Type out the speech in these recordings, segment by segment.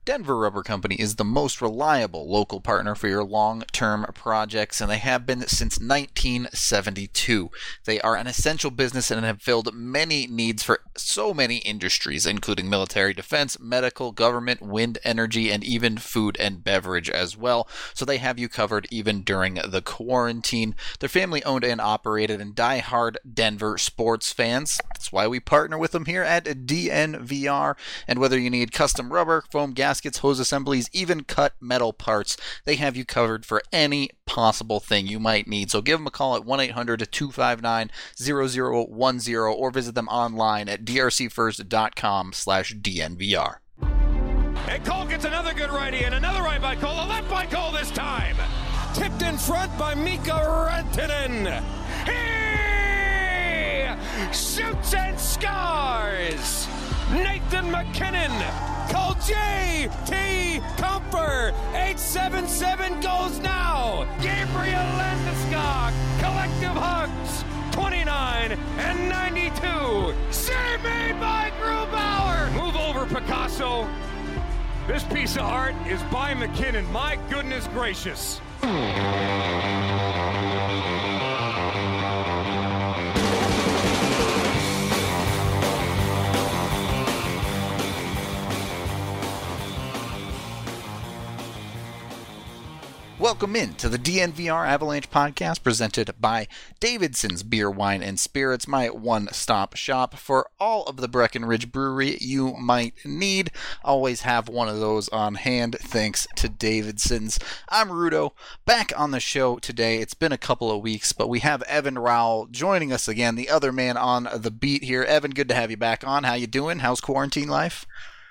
Denver Rubber Company is the most reliable local partner for your long-term projects, and they have been since 1972. They are an essential business and have filled many needs for so many industries, including military defense, medical, government, wind energy, and even food and beverage as well. So they have you covered even during the quarantine. They're family-owned and operated and die-hard Denver sports fans. That's why we partner with them here at DNVR. And whether you need custom rubber, foam gaskets, hose assemblies, even cut metal parts, they have you covered for any possible thing you might need. So give them a call at 1-800-259-0010 or visit them online at drcfirst.com/DNVR. And Cole gets another good righty and another right by Cole, a left by Cole this time. Tipped in front by Mika Rantanen. He shoots and scores. Nathan MacKinnon. Call J.T. Comfer. 877 goes now. Gabriel Landeskog. Collective hugs. 29 and 92. Save made by Grubauer. Move over, Picasso. This piece of art is by MacKinnon. My goodness gracious. Welcome in to the DNVR Avalanche podcast presented by Davidson's Beer, Wine, and Spirits, my one-stop shop for all of the Breckenridge Brewery you might need. Always have one of those on hand thanks to Davidson's. I'm Rudo, back on the show today. It's been a couple of weeks, but we have Evan Rowell joining us again, the other man on the beat here. Evan, good to have you back on. How you doing? How's quarantine life?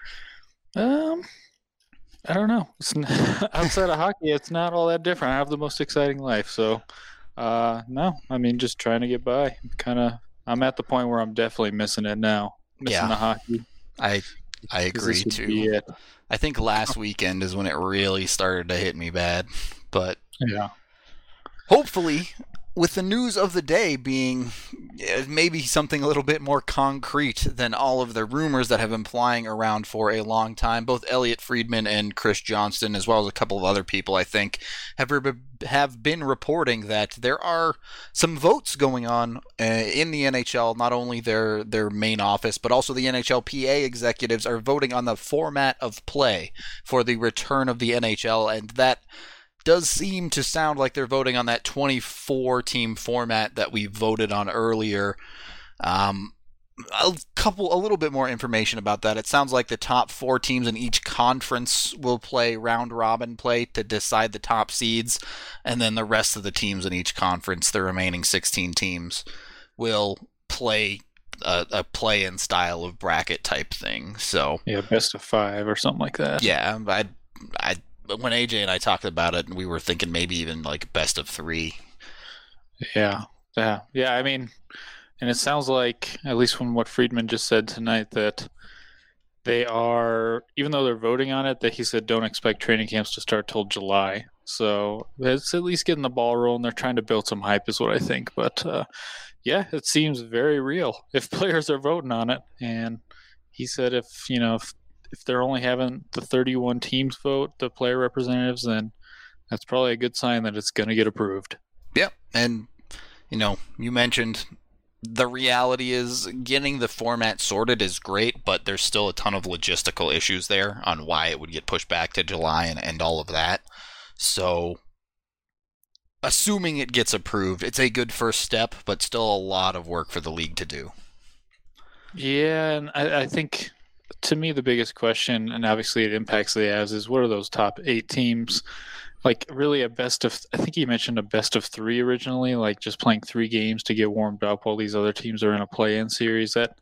I don't know. Outside of hockey, it's not all that different. I have the most exciting life. So, no, I mean, just trying to get by. I'm at the point where I'm definitely missing it now. Missing the hockey. I agree too. I think last weekend is when it really started to hit me bad. But yeah, hopefully, with the news of the day being maybe something a little bit more concrete than all of the rumors that have been flying around for a long time, both Elliot Friedman and Chris Johnston, as well as a couple of other people, I think, have been reporting that there are some votes going on in the NHL, not only their main office, but also the NHLPA executives are voting on the format of play for the return of the NHL, and that does seem to sound like they're voting on that 24-team format that we voted on earlier. A little bit more information about that. It sounds like the top 4 teams in each conference will play round-robin play to decide the top seeds, and then the rest of the teams in each conference, the remaining 16 teams, will play a play-in style of bracket type thing. So yeah, best of 5 or something like that. Yeah, when AJ and I talked about it, we were thinking maybe even like best of 3. Yeah. I mean, and it sounds like, at least from what Friedman just said tonight, that they are, even though they're voting on it, that he said don't expect training camps to start till July. So it's at least getting the ball rolling. They're trying to build some hype, is what I think. But yeah, it seems very real if players are voting on it. And he said if they're only having the 31 teams vote, the player representatives, then that's probably a good sign that it's going to get approved. Yep. And, you mentioned the reality is getting the format sorted is great, but there's still a ton of logistical issues there on why it would get pushed back to July and all of that. So, assuming it gets approved, it's a good first step, but still a lot of work for the league to do. Yeah, and I think, to me, the biggest question, and obviously it impacts the Avs, is what are those top 8 teams? Like, really I think he mentioned a best of 3 originally, like just playing 3 games to get warmed up while these other teams are in a play-in series. That,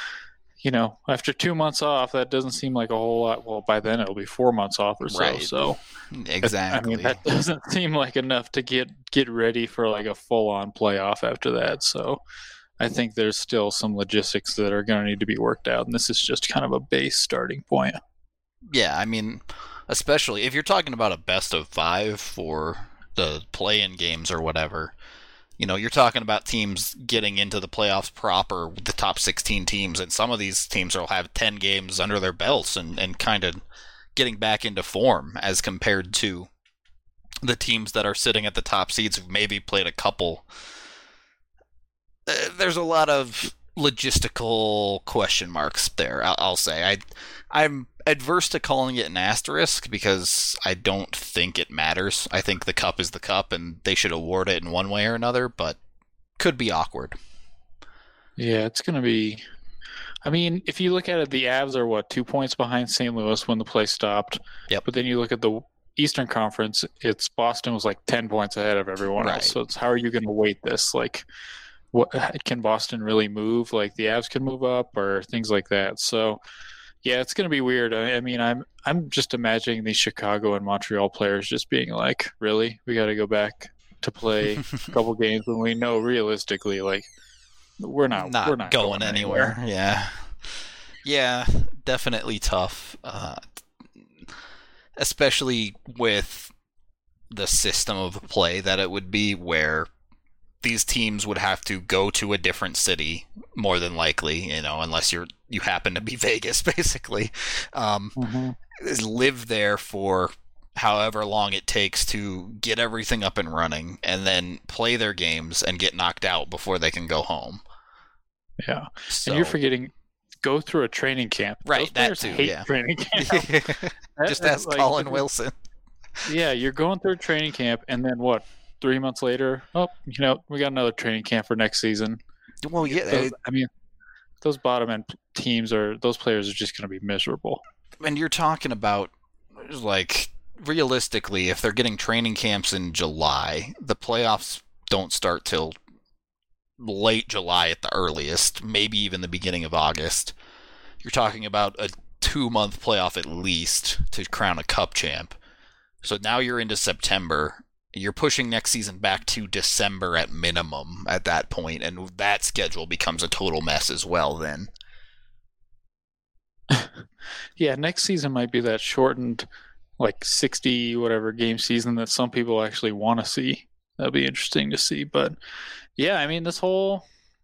after 2 months off, that doesn't seem like a whole lot. Well, by then it'll be 4 months off or so. Right. So exactly. I mean, that doesn't seem like enough to get ready for like a full-on playoff after that. So I think there's still some logistics that are going to need to be worked out, and this is just kind of a base starting point. Yeah, I mean, especially if you're talking about a best of 5 for the play-in games or whatever, you're talking about teams getting into the playoffs proper with the top 16 teams, and some of these teams will have 10 games under their belts and kind of getting back into form as compared to the teams that are sitting at the top seeds who've maybe played a couple. There's a lot of logistical question marks there, I'll say. I'm adverse to calling it an asterisk because I don't think it matters. I think the cup is the cup and they should award it in one way or another, but could be awkward. Yeah, it's going to be... I mean, if you look at it, the Avs are, 2 points behind St. Louis when the play stopped? Yep. But then you look at the Eastern Conference, it's Boston was 10 points ahead of everyone else. So it's how are you going to weight this? What can Boston really move? The Avs can move up or things like that. So, yeah, it's going to be weird. I mean, I'm just imagining these Chicago and Montreal players just being really? We got to go back to play a couple games when we know realistically, we're not going anywhere. Yeah, definitely tough. Especially with the system of play that it would be, where these teams would have to go to a different city, more than likely, unless you happen to be Vegas, basically. Live there for however long it takes to get everything up and running, and then play their games and get knocked out before they can go home. Yeah, so, and you're forgetting, go through a training camp. Right, that too, hate training camp. Just ask Colin Wilson. Yeah, you're going through a training camp, and then 3 months later, we got another training camp for next season. Well, yeah. Those bottom end teams those players are just going to be miserable. And you're talking about, realistically, if they're getting training camps in July, the playoffs don't start till late July at the earliest, maybe even the beginning of August. You're talking about a 2-month playoff at least to crown a cup champ. So now you're into September. You're pushing next season back to December at minimum at that point, and that schedule becomes a total mess as well then. Yeah, next season might be that shortened 60 whatever game season that some people actually want to see. That'll be interesting to see. But yeah, I mean, this whole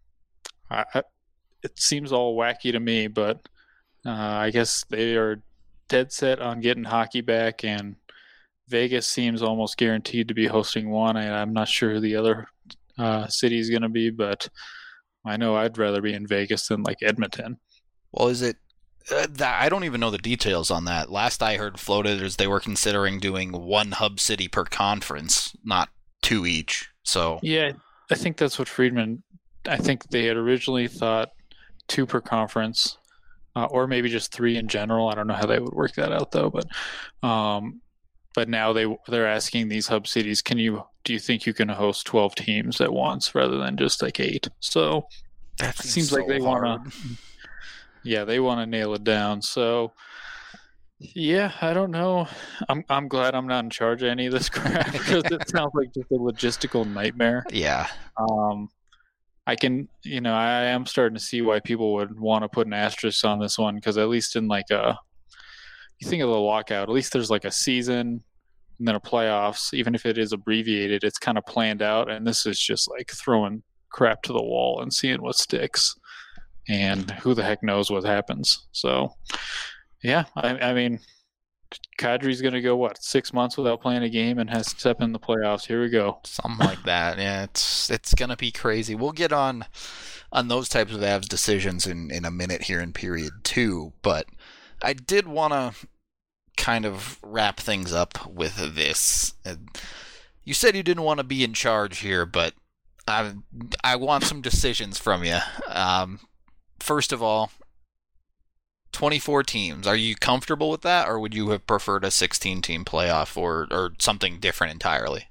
it seems all wacky to me, but I guess they are dead set on getting hockey back, and Vegas seems almost guaranteed to be hosting one. I'm not sure who the other city is going to be, but I know I'd rather be in Vegas than Edmonton. Well, is it I don't even know the details on that. Last I heard floated is they were considering doing one hub city per conference, not 2 each. So yeah, I think that's what Friedman. I think they had originally thought 2 per conference, or maybe just 3 in general. I don't know how they would work that out though. But now they're asking these hub cities, do you think you can host 12 teams at once rather than just 8? So that seems so like they want to. Yeah, they want to nail it down. So, yeah, I don't know. I'm glad I'm not in charge of any of this crap because it sounds like just a logistical nightmare. Yeah. I am starting to see why people would want to put an asterisk on this one because at least in you think of the lockout, at least there's a season and then a playoffs. Even if it is abbreviated, it's kind of planned out. And this is just throwing crap to the wall and seeing what sticks. And who the heck knows what happens. So, yeah, I mean, Kadri's going to go, 6 months without playing a game and has to step in the playoffs. Here we go. Something like that. Yeah, it's going to be crazy. We'll get on those types of Avs decisions in a minute here in period 2. But I did want to kind of wrap things up with this. You said you didn't want to be in charge here, but I want some decisions from you. First of all, 24 teams. Are you comfortable with that, or would you have preferred a 16-team playoff or something different entirely?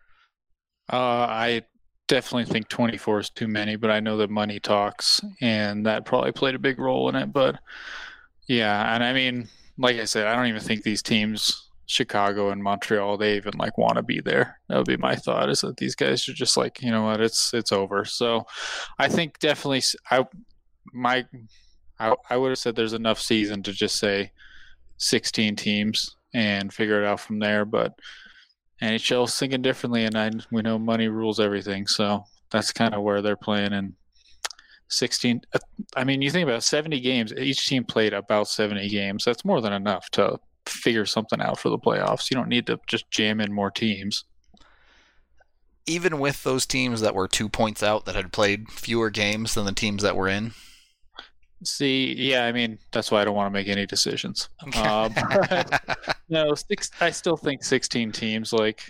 I definitely think 24 is too many, but I know that money talks, and that probably played a big role in it. But, yeah, and I mean, like I said, I don't even think these teams, Chicago and Montreal, they even want to be there. That would be my thought, is that these guys are just you know what, it's over. So I think definitely I would have said there's enough season to just say 16 teams and figure it out from there. But NHL's thinking differently, and we know money rules everything. So that's kind of where they're playing. And 16, I mean, you think about 70 games. Each team played about 70 games. That's more than enough to figure something out for the playoffs. You don't need to just jam in more teams. Even with those teams that were 2 points out that had played fewer games than the teams that were in. See, yeah, I mean, that's why I don't want to make any decisions. No, I still think 16 teams, like,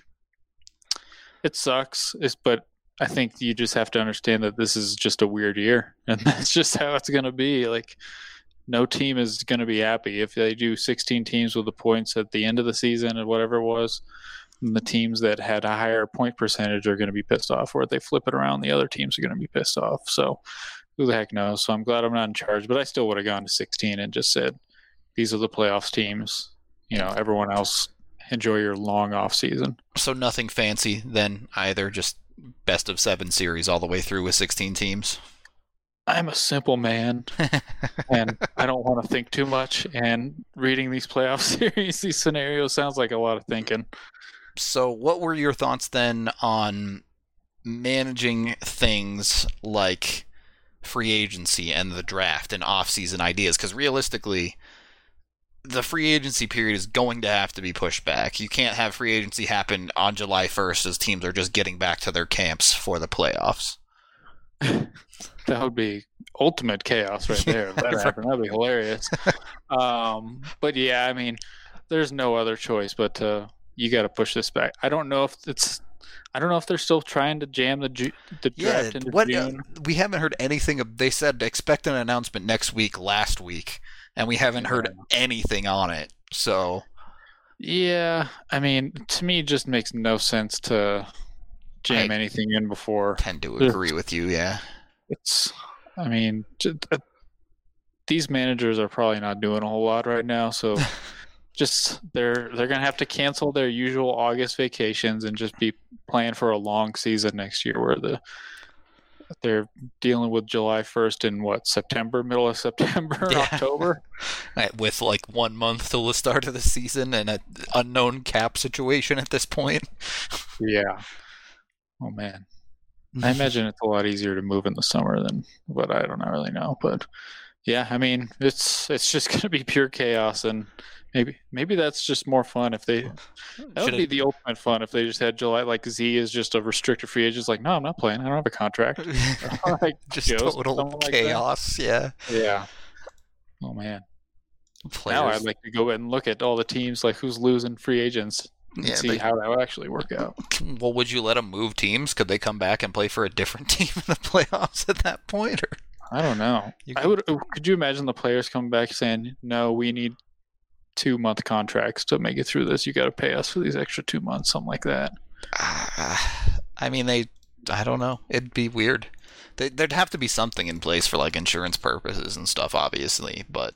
it sucks, but I think you just have to understand that this is just a weird year, and that's just how it's going to be. Like, no team is going to be happy if they do 16 teams with the points at the end of the season or whatever it was. And the teams that had a higher point percentage are going to be pissed off, or if they flip it around, the other teams are going to be pissed off. So who the heck knows? So I'm glad I'm not in charge, but I still would have gone to 16 and just said, these are the playoffs teams. You know, everyone else, enjoy your long off season. So nothing fancy then either, just best of 7 series all the way through with 16 teams. I'm a simple man, and I don't want to think too much. And reading these playoff series, these scenarios sounds like a lot of thinking. So what were your thoughts then on managing things like free agency and the draft and off-season ideas? Because realistically, the free agency period is going to have to be pushed back. You can't have free agency happen on July 1st as teams are just getting back to their camps for the playoffs. That would be ultimate chaos right there. If that happened, that'd be hilarious. But yeah, I mean, there's no other choice but you got to push this back. I don't know if they're still trying to jam the draft into June. We haven't heard anything. They said expect an announcement next week, last week, and we haven't heard anything on it. So, yeah, I mean, to me, it just makes no sense to jam anything in before. I tend to agree with you. Yeah, I mean, these managers are probably not doing a whole lot right now, so. Just they're gonna have to cancel their usual August vacations and just be playing for a long season next year, where they're dealing with July 1st in September, middle of September, October, with like 1 month till the start of the season and an unknown cap situation at this point. Yeah. Oh man, I imagine it's a lot easier to move in the summer but I don't really know. But yeah, I mean, it's just gonna be pure chaos and. Maybe that's just more fun if that would be the ultimate fun if they just had July, like Z is just a restricted free agent. It's like, no, I'm not playing. I don't have a contract. Like, just total chaos. Like yeah. Oh man. Now I'd like to go and look at all the teams, like who's losing free agents, and see how that would actually work out. Well, would you let them move teams? Could they come back and play for a different team in the playoffs at that point? Or? I don't know. Could you imagine the players coming back saying, no, we need 2-month contracts to make it through this. You got to pay us for these extra 2 months, something like that. I mean, I don't know. It'd be weird. There'd have to be something in place for like insurance purposes and stuff, obviously. But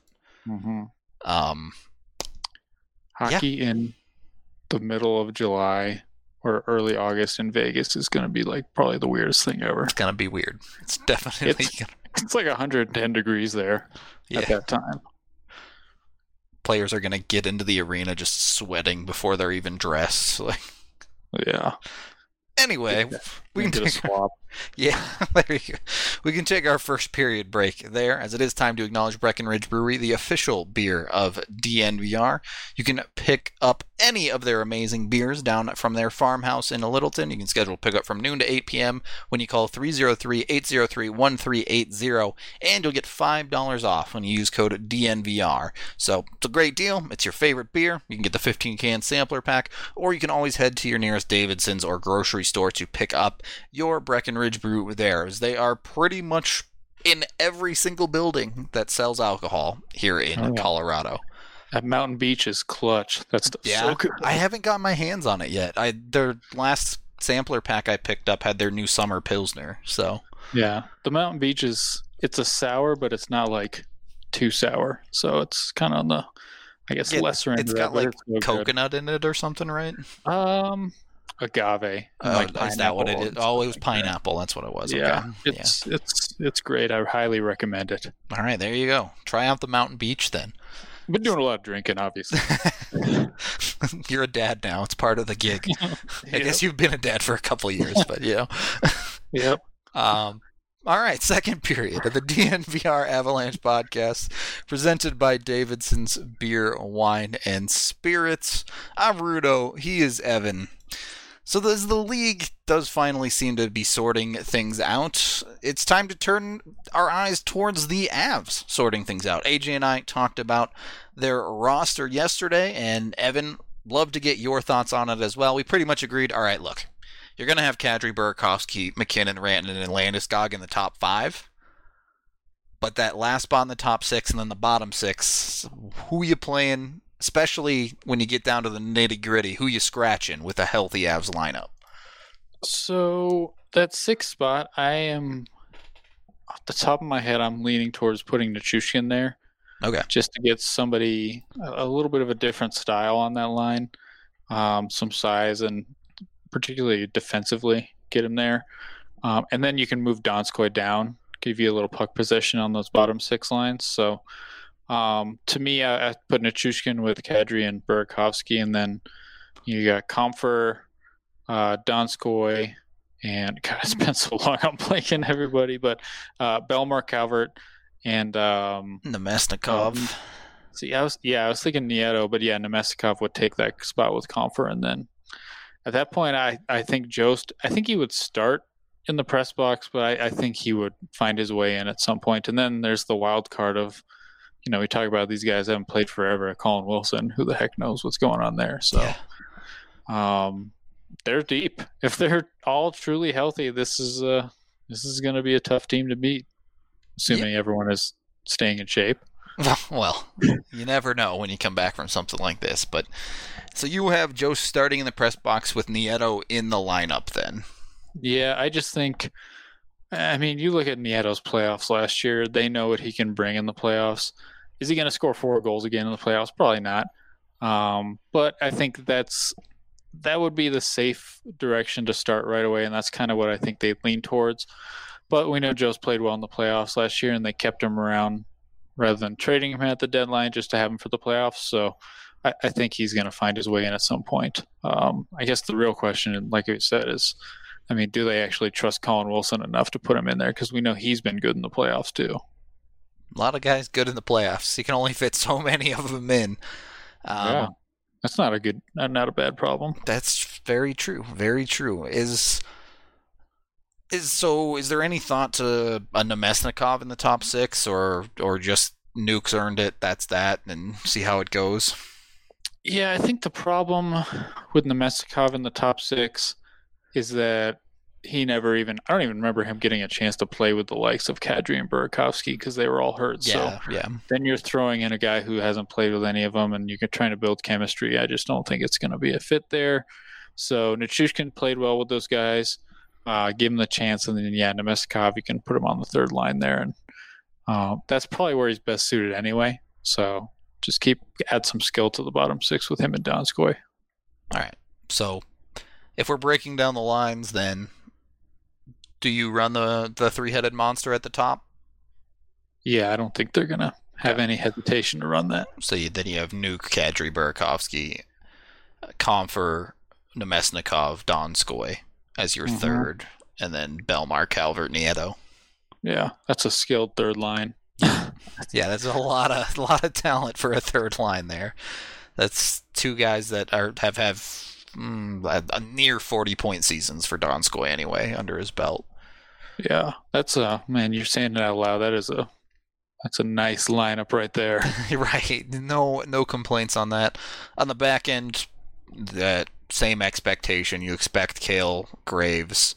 hockey in the middle of July or early August in Vegas is going to be like probably the weirdest thing ever. It's going to be weird. It's definitely. It's like 110 degrees there at that time. Players are going to get into the arena just sweating before they're even dressed. Like, yeah. Anyway, we can get a swap. Yeah, there you go. We can take our first period break there, as it is time to acknowledge Breckenridge Brewery, the official beer of DNVR. You can pick up any of their amazing beers down from their farmhouse in Littleton. You can schedule pickup from noon to 8 p.m. when you call 303-803-1380, and you'll get $5 off when you use code DNVR. So it's a great deal. It's your favorite beer. You can get the 15-can sampler pack, or you can always head to your nearest Davidson's or grocery store to pick up your Breckenridge Brew there, as they are pretty much in every single building that sells alcohol here in Colorado. That Mountain Beach is clutch. That's so good. I haven't got my hands on it yet. Their last sampler pack I picked up had their new summer Pilsner. So yeah, the Mountain Beach it's a sour, but it's not like too sour. So it's kind of on the, I guess, lesser end. It's got like coconut in it or something, right? Agave. Is that what it is? Oh, it was pineapple. That's what it was. Yeah, okay. It's great. I highly recommend it. All right, there you go. Try out the Mountain Beach then. I've been doing a lot of drinking, obviously. You're a dad now. It's part of the gig. I guess you've been a dad for a couple of years, but Yep. All right, second period of the DNVR Avalanche podcast presented by Davidson's Beer, Wine, and Spirits. I'm Rudo. He is Evan. So as the league does finally seem to be sorting things out, it's time to turn our eyes towards the Avs sorting things out. AJ and I talked about their roster yesterday, and Evan, love to get your thoughts on it as well. We pretty much agreed, all right, look, you're going to have Kadri, Burakovsky, McKinnon, Rantanen, and Landeskog in the top 5. But that last spot in the top 6 and then the bottom 6, who you playing, especially when you get down to the nitty-gritty, who you scratching with a healthy Avs lineup? So that 6th spot, I am, off the top of my head, I'm leaning towards putting Nichushkin there. Okay. Just to get somebody, a little bit of a different style on that line, some size, and particularly defensively, get him there. And then you can move Donskoy down, give you a little puck possession on those bottom 6 lines. So to me, I put Nichushkin with Kadri and Burakovsky, and then you got Comfer, Donskoy, and God, it's been so long I'm blanking everybody, but Belmar, Calvert, and Nemesnikov. I was thinking Nieto, but yeah, Nemesnikov would take that spot with Comfer, and then at that point, I think Jost, I think he would start in the press box, but I think he would find his way in at some point. And then there's the wild card of, we talk about these guys haven't played forever. Colin Wilson, who the heck knows what's going on there? So, they're deep. If they're all truly healthy, this is going to be a tough team to beat, assuming everyone is staying in shape. Well, you never know when you come back from something like this, but. So you have Joe starting in the press box with Nieto in the lineup then? Yeah, I just think, you look at Nieto's playoffs last year. They know what he can bring in the playoffs. Is he going to score 4 goals again in the playoffs? Probably not. But I think that would be the safe direction to start right away, and that's kind of what I think they lean towards. But we know Joe's played well in the playoffs last year, and they kept him around rather than trading him at the deadline just to have him for the playoffs. So I think he's going to find his way in at some point. I guess the real question, like I said, is, do they actually trust Colin Wilson enough to put him in there? Because we know he's been good in the playoffs too. A lot of guys good in the playoffs. You can only fit so many of them in. Yeah, that's not a bad problem. That's very true. Very true. Is there any thought to a Nemesnikov in the top 6, or just Nuke's earned it? That's that, and see how it goes. Yeah, I think the problem with Nemesnikov in the top 6 is that I don't even remember him getting a chance to play with the likes of Kadri and Burakovsky because they were all hurt. Yeah. Then you're throwing in a guy who hasn't played with any of them, and you're trying to build chemistry. I just don't think it's going to be a fit there. So Nichushkin played well with those guys. Give him the chance, and then Nemesnikov, you can put him on the 3rd line there, and that's probably where he's best suited anyway. So just add some skill to the bottom 6 with him and Donskoy. All right. So if we're breaking down the lines, then do you run the 3-headed monster at the top? Yeah, I don't think they're going to have any hesitation to run that. So then you have Nuke, Kadri, Burakovsky, Comfer, Nemesnikov, Donskoy as your 3rd, and then Belmar, Calvert, Nieto. Yeah, that's a skilled 3rd line. Yeah, that's a lot of talent for a 3rd line there. That's 2 guys that have a near 40-point seasons for Donskoy anyway under his belt. Yeah, that's you're saying it out loud. That's a nice lineup right there. Right. No complaints on that. On the back end, that same expectation. You expect Cale, Graves,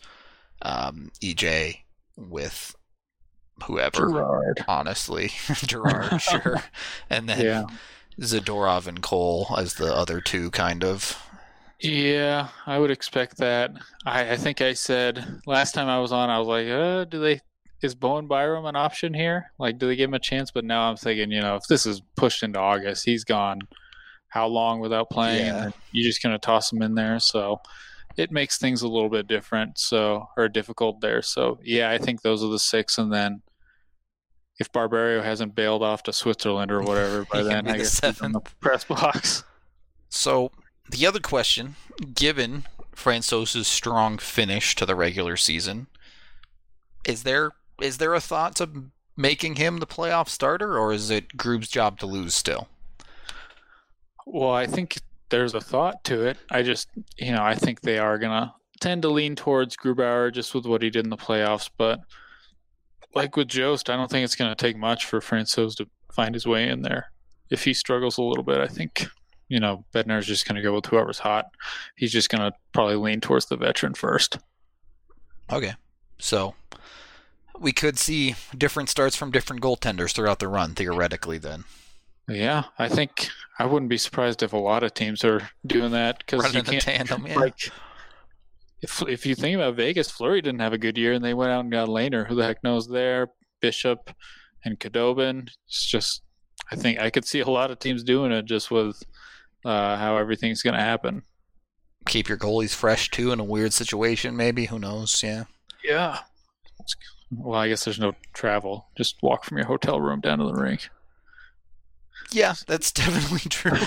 EJ with whoever. Gerard. Honestly. Gerard, sure. And then Zadorov and Cole as the other 2, kind of. Yeah, I would expect that. I think I said last time I was on, I was like, is Bowen Byram an option here? Like, do they give him a chance? But now I'm thinking, if this is pushed into August, he's gone how long without playing? Yeah. And you're just going to toss him in there. So it makes things a little bit different, or difficult there. So, yeah, I think those are the 6. And then if Barberio hasn't bailed off to Switzerland or whatever by then, I guess he's in the press box. So the other question, given Francouz's strong finish to the regular season, is there is there a thought to making him the playoff starter, or is it Grube's job to lose still? Well, I think there's a thought to it. I think they are going to tend to lean towards Grubauer just with what he did in the playoffs. But like with Jost, I don't think it's going to take much for Francouz to find his way in there. If he struggles a little bit, I think, Bednar's just going to go with whoever's hot. He's just going to probably lean towards the veteran first. Okay. So we could see different starts from different goaltenders throughout the run, theoretically, then. Yeah, I think I wouldn't be surprised if a lot of teams are doing that because you can't. Tandem, yeah. Like, if you think about Vegas, Fleury didn't have a good year, and they went out and got Lehner. Who the heck knows there? Bishop and Khudobin. It's just, I think I could see a lot of teams doing it just with how everything's going to happen. Keep your goalies fresh too in a weird situation, maybe. Who knows? Yeah. Yeah. Well, I guess there's no travel. Just walk from your hotel room down to the rink. Yeah, that's definitely true.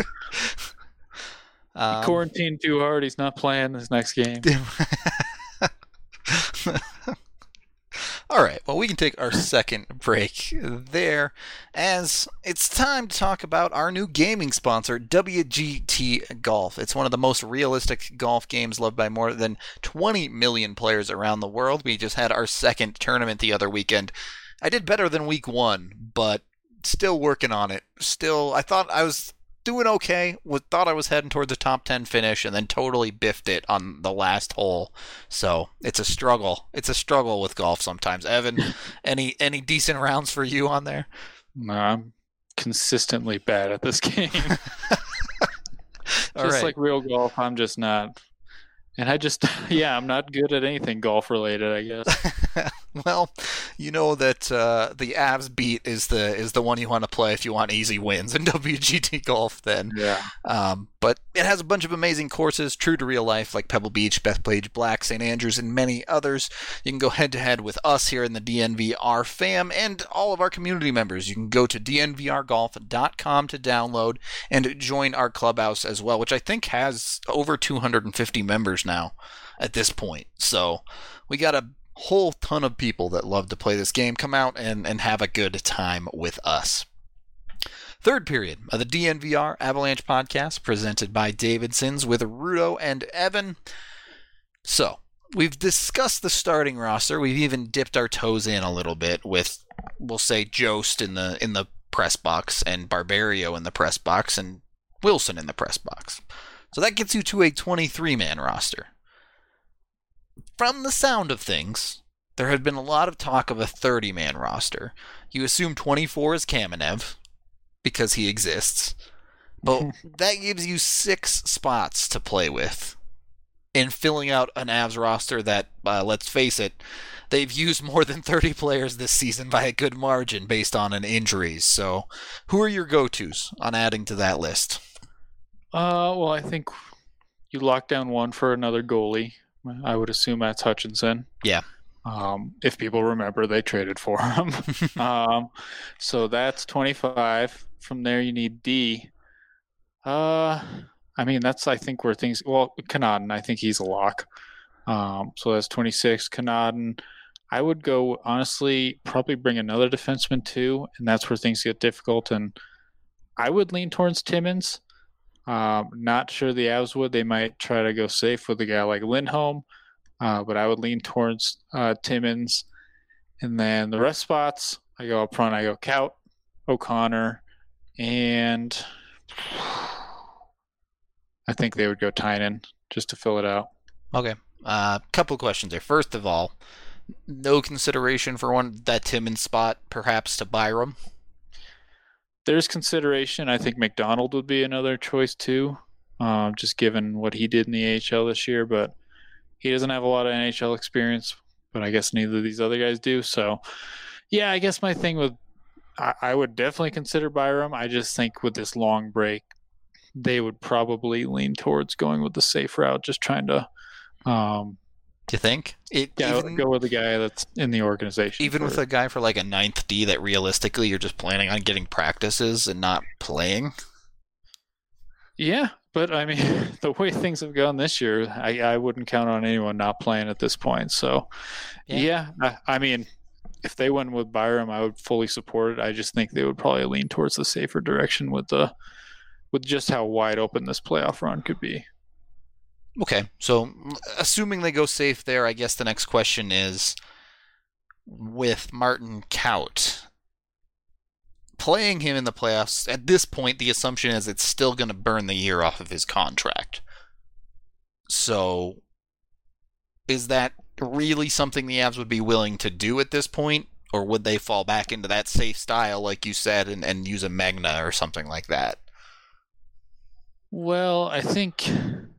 Quarantined too hard. He's not playing this next game. All right, well, we can take our second break there, as it's time to talk about our new gaming sponsor, WGT Golf. It's one of the most realistic golf games loved by more than 20 million players around the world. We just had our second tournament the other weekend. I did better than week one, but still working on it. Still, I thought I was doing okay. Thought I was heading towards the top 10 finish, and then totally biffed it on the last hole. So it's a struggle. It's a struggle with golf sometimes. Evan, any decent rounds for you on there? No, I'm consistently bad at this game. Like real golf, I'm just not. And I'm not good at anything golf related, I guess. Well, you know that the Avs beat is the one you want to play if you want easy wins in WGT Golf then. Yeah. But it has a bunch of amazing courses, true to real life, like Pebble Beach, Bethpage Black, St. Andrews, and many others. You can go head-to-head with us here in the DNVR fam and all of our community members. You can go to dnvrgolf.com to download and join our clubhouse as well, which I think has over 250 members now at this point. So we got a whole ton of people that love to play this game. Come out and have a good time with us. Third period of the DNVR Avalanche podcast presented by Davidson's with Rudo and Evan. So we've discussed the starting roster. We've even dipped our toes in a little bit with, we'll say, Jost in the press box and Barberio in the press box and Wilson in the press box. So that gets you to a 23-man roster. From the sound of things, there had been a lot of talk of a 30-man roster. You assume 24 is Kamenev, because he exists. But that gives you 6 spots to play with in filling out an Avs roster that, let's face it, they've used more than 30 players this season by a good margin based on injuries. So who are your go-tos on adding to that list? Well, I think you lock down one for another goalie. I would assume that's Hutchinson. Yeah. If people remember, they traded for him. So that's 25. From there, you need D. That's, I think, where things... Well, Connaughton, I think he's a lock. So that's 26. Connaughton. I would go, honestly, probably bring another defenseman, too, and that's where things get difficult. And I would lean towards Timmins. Not sure the Avs would. They might try to go safe with a guy like Lindholm, but I would lean towards Timmins. And then the rest spots, I go up front. I go Kaut, O'Connor, and I think they would go Tynan just to fill it out. Okay. Couple of questions there. First of all, no consideration for that Timmins spot, perhaps to Byram? There's consideration. I think McDonald would be another choice too, just given what he did in the AHL this year. But he doesn't have a lot of NHL experience, but I guess neither of these other guys do. So, yeah, I guess my thing with I would definitely consider Byram. I just think with this long break, they would probably lean towards going with the safe route, just trying to do you think? Go with the guy that's in the organization. Even with a guy for like a 9th D that realistically you're just planning on getting practices and not playing? Yeah, but I mean, the way things have gone this year, I wouldn't count on anyone not playing at this point. So, yeah I mean, if they went with Byram, I would fully support it. I just think they would probably lean towards the safer direction with just how wide open this playoff run could be. Okay, so assuming they go safe there, I guess the next question is, with Martin Kaut, playing him in the playoffs, at this point, the assumption is it's still going to burn the year off of his contract. So, is that really something the Avs would be willing to do at this point? Or would they fall back into that safe style, like you said, and use a Magna or something like that? Well, I think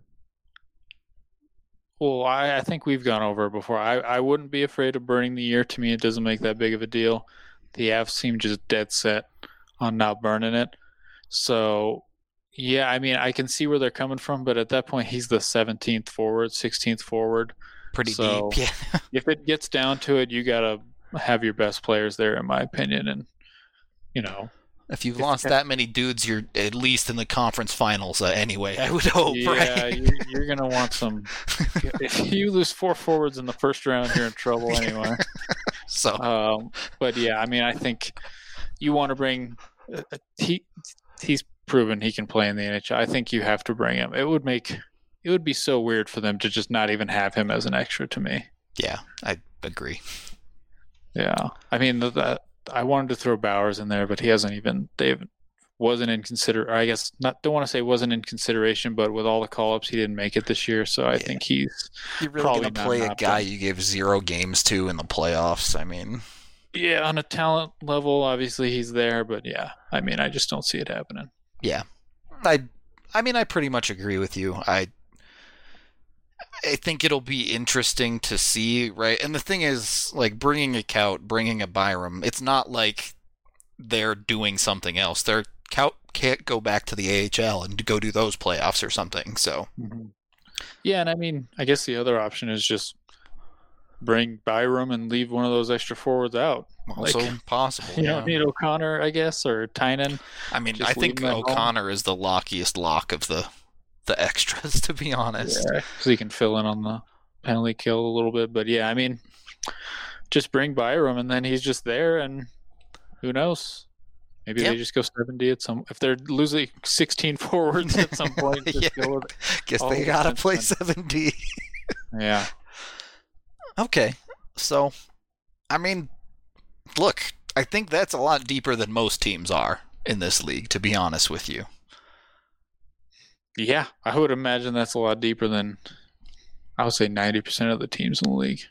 we've gone over it before. I wouldn't be afraid of burning the year. To me, it doesn't make that big of a deal. The Avs seem just dead set on not burning it. So, yeah, I mean, I can see where they're coming from, but at that point, he's the 17th forward, 16th forward. Pretty deep, yeah. If it gets down to it, you got to have your best players there, in my opinion. And, if you've lost that many dudes, you're at least in the conference finals anyway, I would hope, right? Yeah, you're going to want some... If you lose 4 forwards in the first round, you're in trouble anyway. But yeah, I mean, I think you want to bring... He's proven he can play in the NHL. I think you have to bring him. It would be so weird for them to just not even have him as an extra to me. Yeah, I agree. Yeah, I mean, I wanted to throw Bowers in there, but he wasn't in don't want to say wasn't in consideration, but with all the call-ups, he didn't make it this year, so I think you're really going to play a guy you gave 0 games to in the playoffs. I mean, yeah, on a talent level, obviously he's there, but yeah, I mean, I just don't see it happening. Yeah, I pretty much agree with you. I think it'll be interesting to see, right? And the thing is, like, bringing a Kaut, bringing a Byram, it's not like they're doing something else. Kaut can't go back to the AHL and go do those playoffs or something, so. Mm-hmm. Yeah, and I mean, I guess the other option is just bring Byram and leave one of those extra forwards out. Also possible. You don't need O'Connor, I guess, or Tynan. I mean, I think O'Connor is the lockiest lock of the extras, to be honest. Yeah, so he can fill in on the penalty kill a little bit. But yeah, I mean, just bring Byram and then he's just there, and who knows? Maybe they just go 70 at some. If they're losing 16 forwards at some point, just go with it. Guess they gotta play 70. Yeah. Okay, so I mean, look, I think that's a lot deeper than most teams are in this league, to be honest with you. Yeah, I would imagine that's a lot deeper than, I would say, 90% of the teams in the league.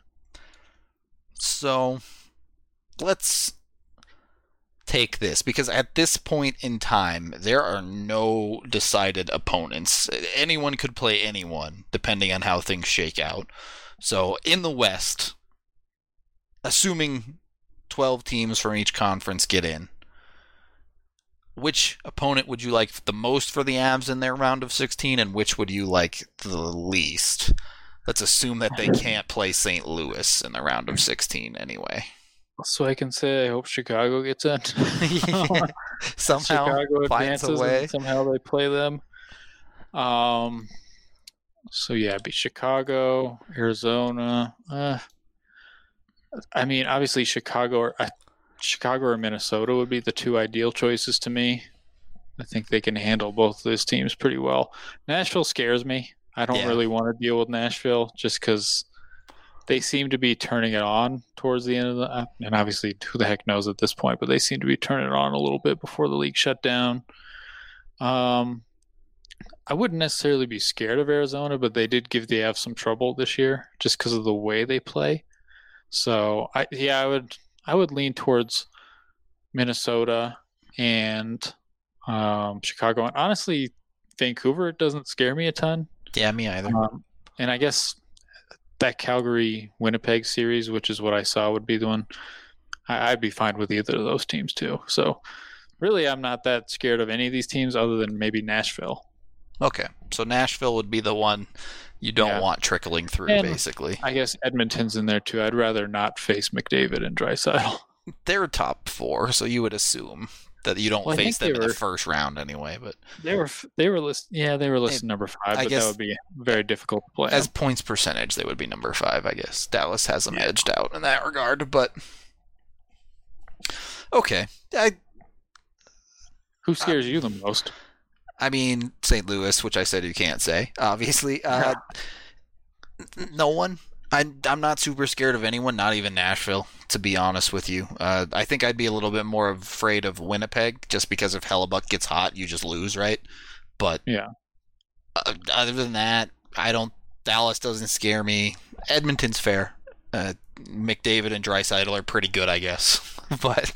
So, let's take this, because at this point in time, there are no decided opponents. Anyone could play anyone, depending on how things shake out. So, in the West, assuming 12 teams from each conference get in, which opponent would you like the most for the Avs in their round of 16, and which would you like the least? Let's assume that they can't play St. Louis in the round of 16 anyway. So I can say I hope Chicago gets in. Somehow Chicago finds advances a way. and somehow they play them. So yeah, it'd be Chicago, Arizona. I mean, obviously Chicago or Minnesota would be the 2 ideal choices to me. I think they can handle both of those teams pretty well. Nashville scares me. I don't really want to deal with Nashville just because they seem to be turning it on towards the end of the... And obviously, who the heck knows at this point, but they seem to be turning it on a little bit before the league shut down. I wouldn't necessarily be scared of Arizona, but they did give the Avs some trouble this year just because of the way they play. So, I would lean towards Minnesota and Chicago. And honestly, Vancouver doesn't scare me a ton. Yeah, me either. And I guess that Calgary-Winnipeg series, which is what I saw, would be the one. I'd be fine with either of those teams too. So really, I'm not that scared of any of these teams other than maybe Nashville. Okay, so Nashville would be the one you don't want trickling through, and basically. I guess Edmonton's in there too. I'd rather not face McDavid and Draisaitl. They're top 4, so you would assume that you don't face them in the first round anyway. But they were listed. Yeah, they were listed number 5. But that would be very difficult to play. As points percentage, they would be number 5. I guess Dallas has them edged out in that regard. But Okay. Who scares you the most? I mean, St. Louis, which I said you can't say, obviously. No one. I'm not super scared of anyone, not even Nashville, to be honest with you. I think I'd be a little bit more afraid of Winnipeg, just because if Hellebuck gets hot, you just lose, right? But Yeah. Other than that, Dallas doesn't scare me. Edmonton's fair. McDavid and Draisaitl are pretty good, I guess. But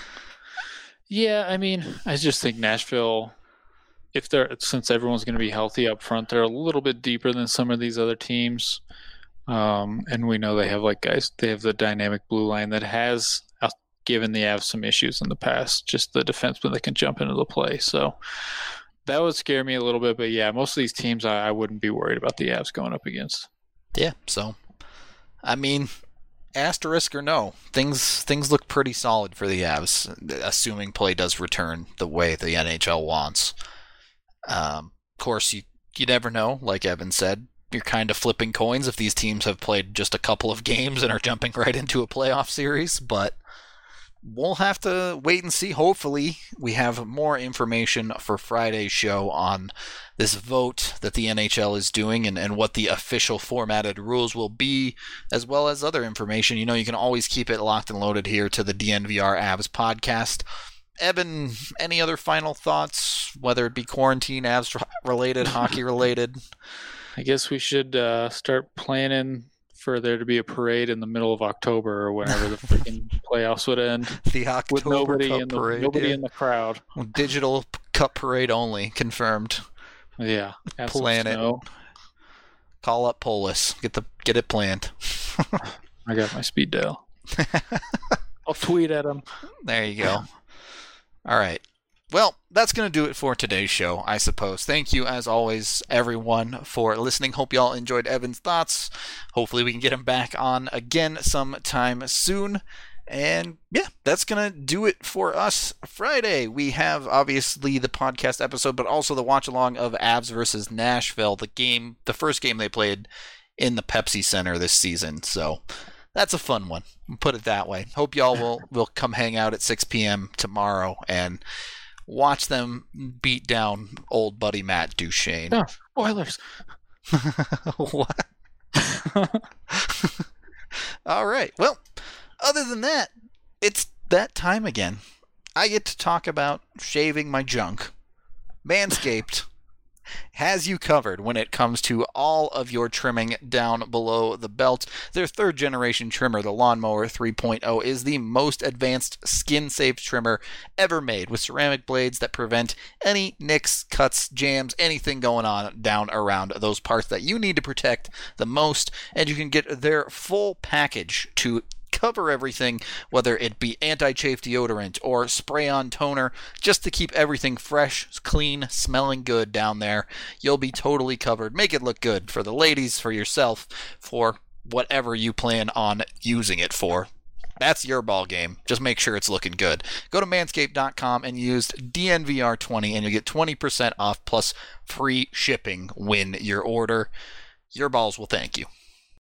yeah, I mean, I just think Nashville, since everyone's going to be healthy up front, they're a little bit deeper than some of these other teams. And we know they have they have the dynamic blue line that has given the Avs some issues in the past, just the defensemen that can jump into the play. So that would scare me a little bit, but yeah, most of these teams I wouldn't be worried about the Avs going up against. Yeah, so I mean, asterisk or no, things look pretty solid for the Avs, assuming play does return the way the NHL wants. Of course, you never know, like Evan said. You're kind of flipping coins if these teams have played just a couple of games and are jumping right into a playoff series, but we'll have to wait and see. Hopefully, we have more information for Friday's show on this vote that the NHL is doing and what the official formatted rules will be, as well as other information. You know, you can always keep it locked and loaded here to the DNVR Avs podcast. Evan, any other final thoughts, whether it be quarantine, Avs related, hockey related? I guess we should start planning for there to be a parade in the middle of October or whenever the freaking playoffs would end. The October with nobody Cup in the parade. nobody in the crowd. Digital Cup parade only, confirmed. Yeah. Plan it. Call up Polis. Get it planned. I got my speed dial. I'll tweet at him. There you go. All right. Well, that's going to do it for today's show, I suppose. Thank you, as always, everyone, for listening. Hope you all enjoyed Evan's thoughts. Hopefully we can get him back on again sometime soon. And yeah, that's going to do it for us Friday. We have, obviously, the podcast episode, but also the watch-along of Avs versus Nashville, the first game they played in the Pepsi Center this season. So that's a fun one, put it that way. Hope y'all will come hang out at 6 p.m. tomorrow and watch them beat down old buddy Matt Duchene. No, Oilers. What? All right. Well, other than that, it's that time again. I get to talk about shaving my junk. Manscaped has you covered when it comes to all of your trimming down below the belt. Their third generation trimmer, the Lawnmower 3.0, is the most advanced skin-safe trimmer ever made, with ceramic blades that prevent any nicks, cuts, jams, anything going on down around those parts that you need to protect the most. And you can get their full package to cover everything, whether it be anti-chafe deodorant or spray-on toner, just to keep everything fresh, clean, smelling good down there. You'll be totally covered. Make it look good for the ladies, for yourself, for whatever you plan on using it for. That's your ball game. Just make sure it's looking good. Go to manscaped.com and use DNVR20 and you'll get 20% off plus free shipping when your order. Your balls will thank you.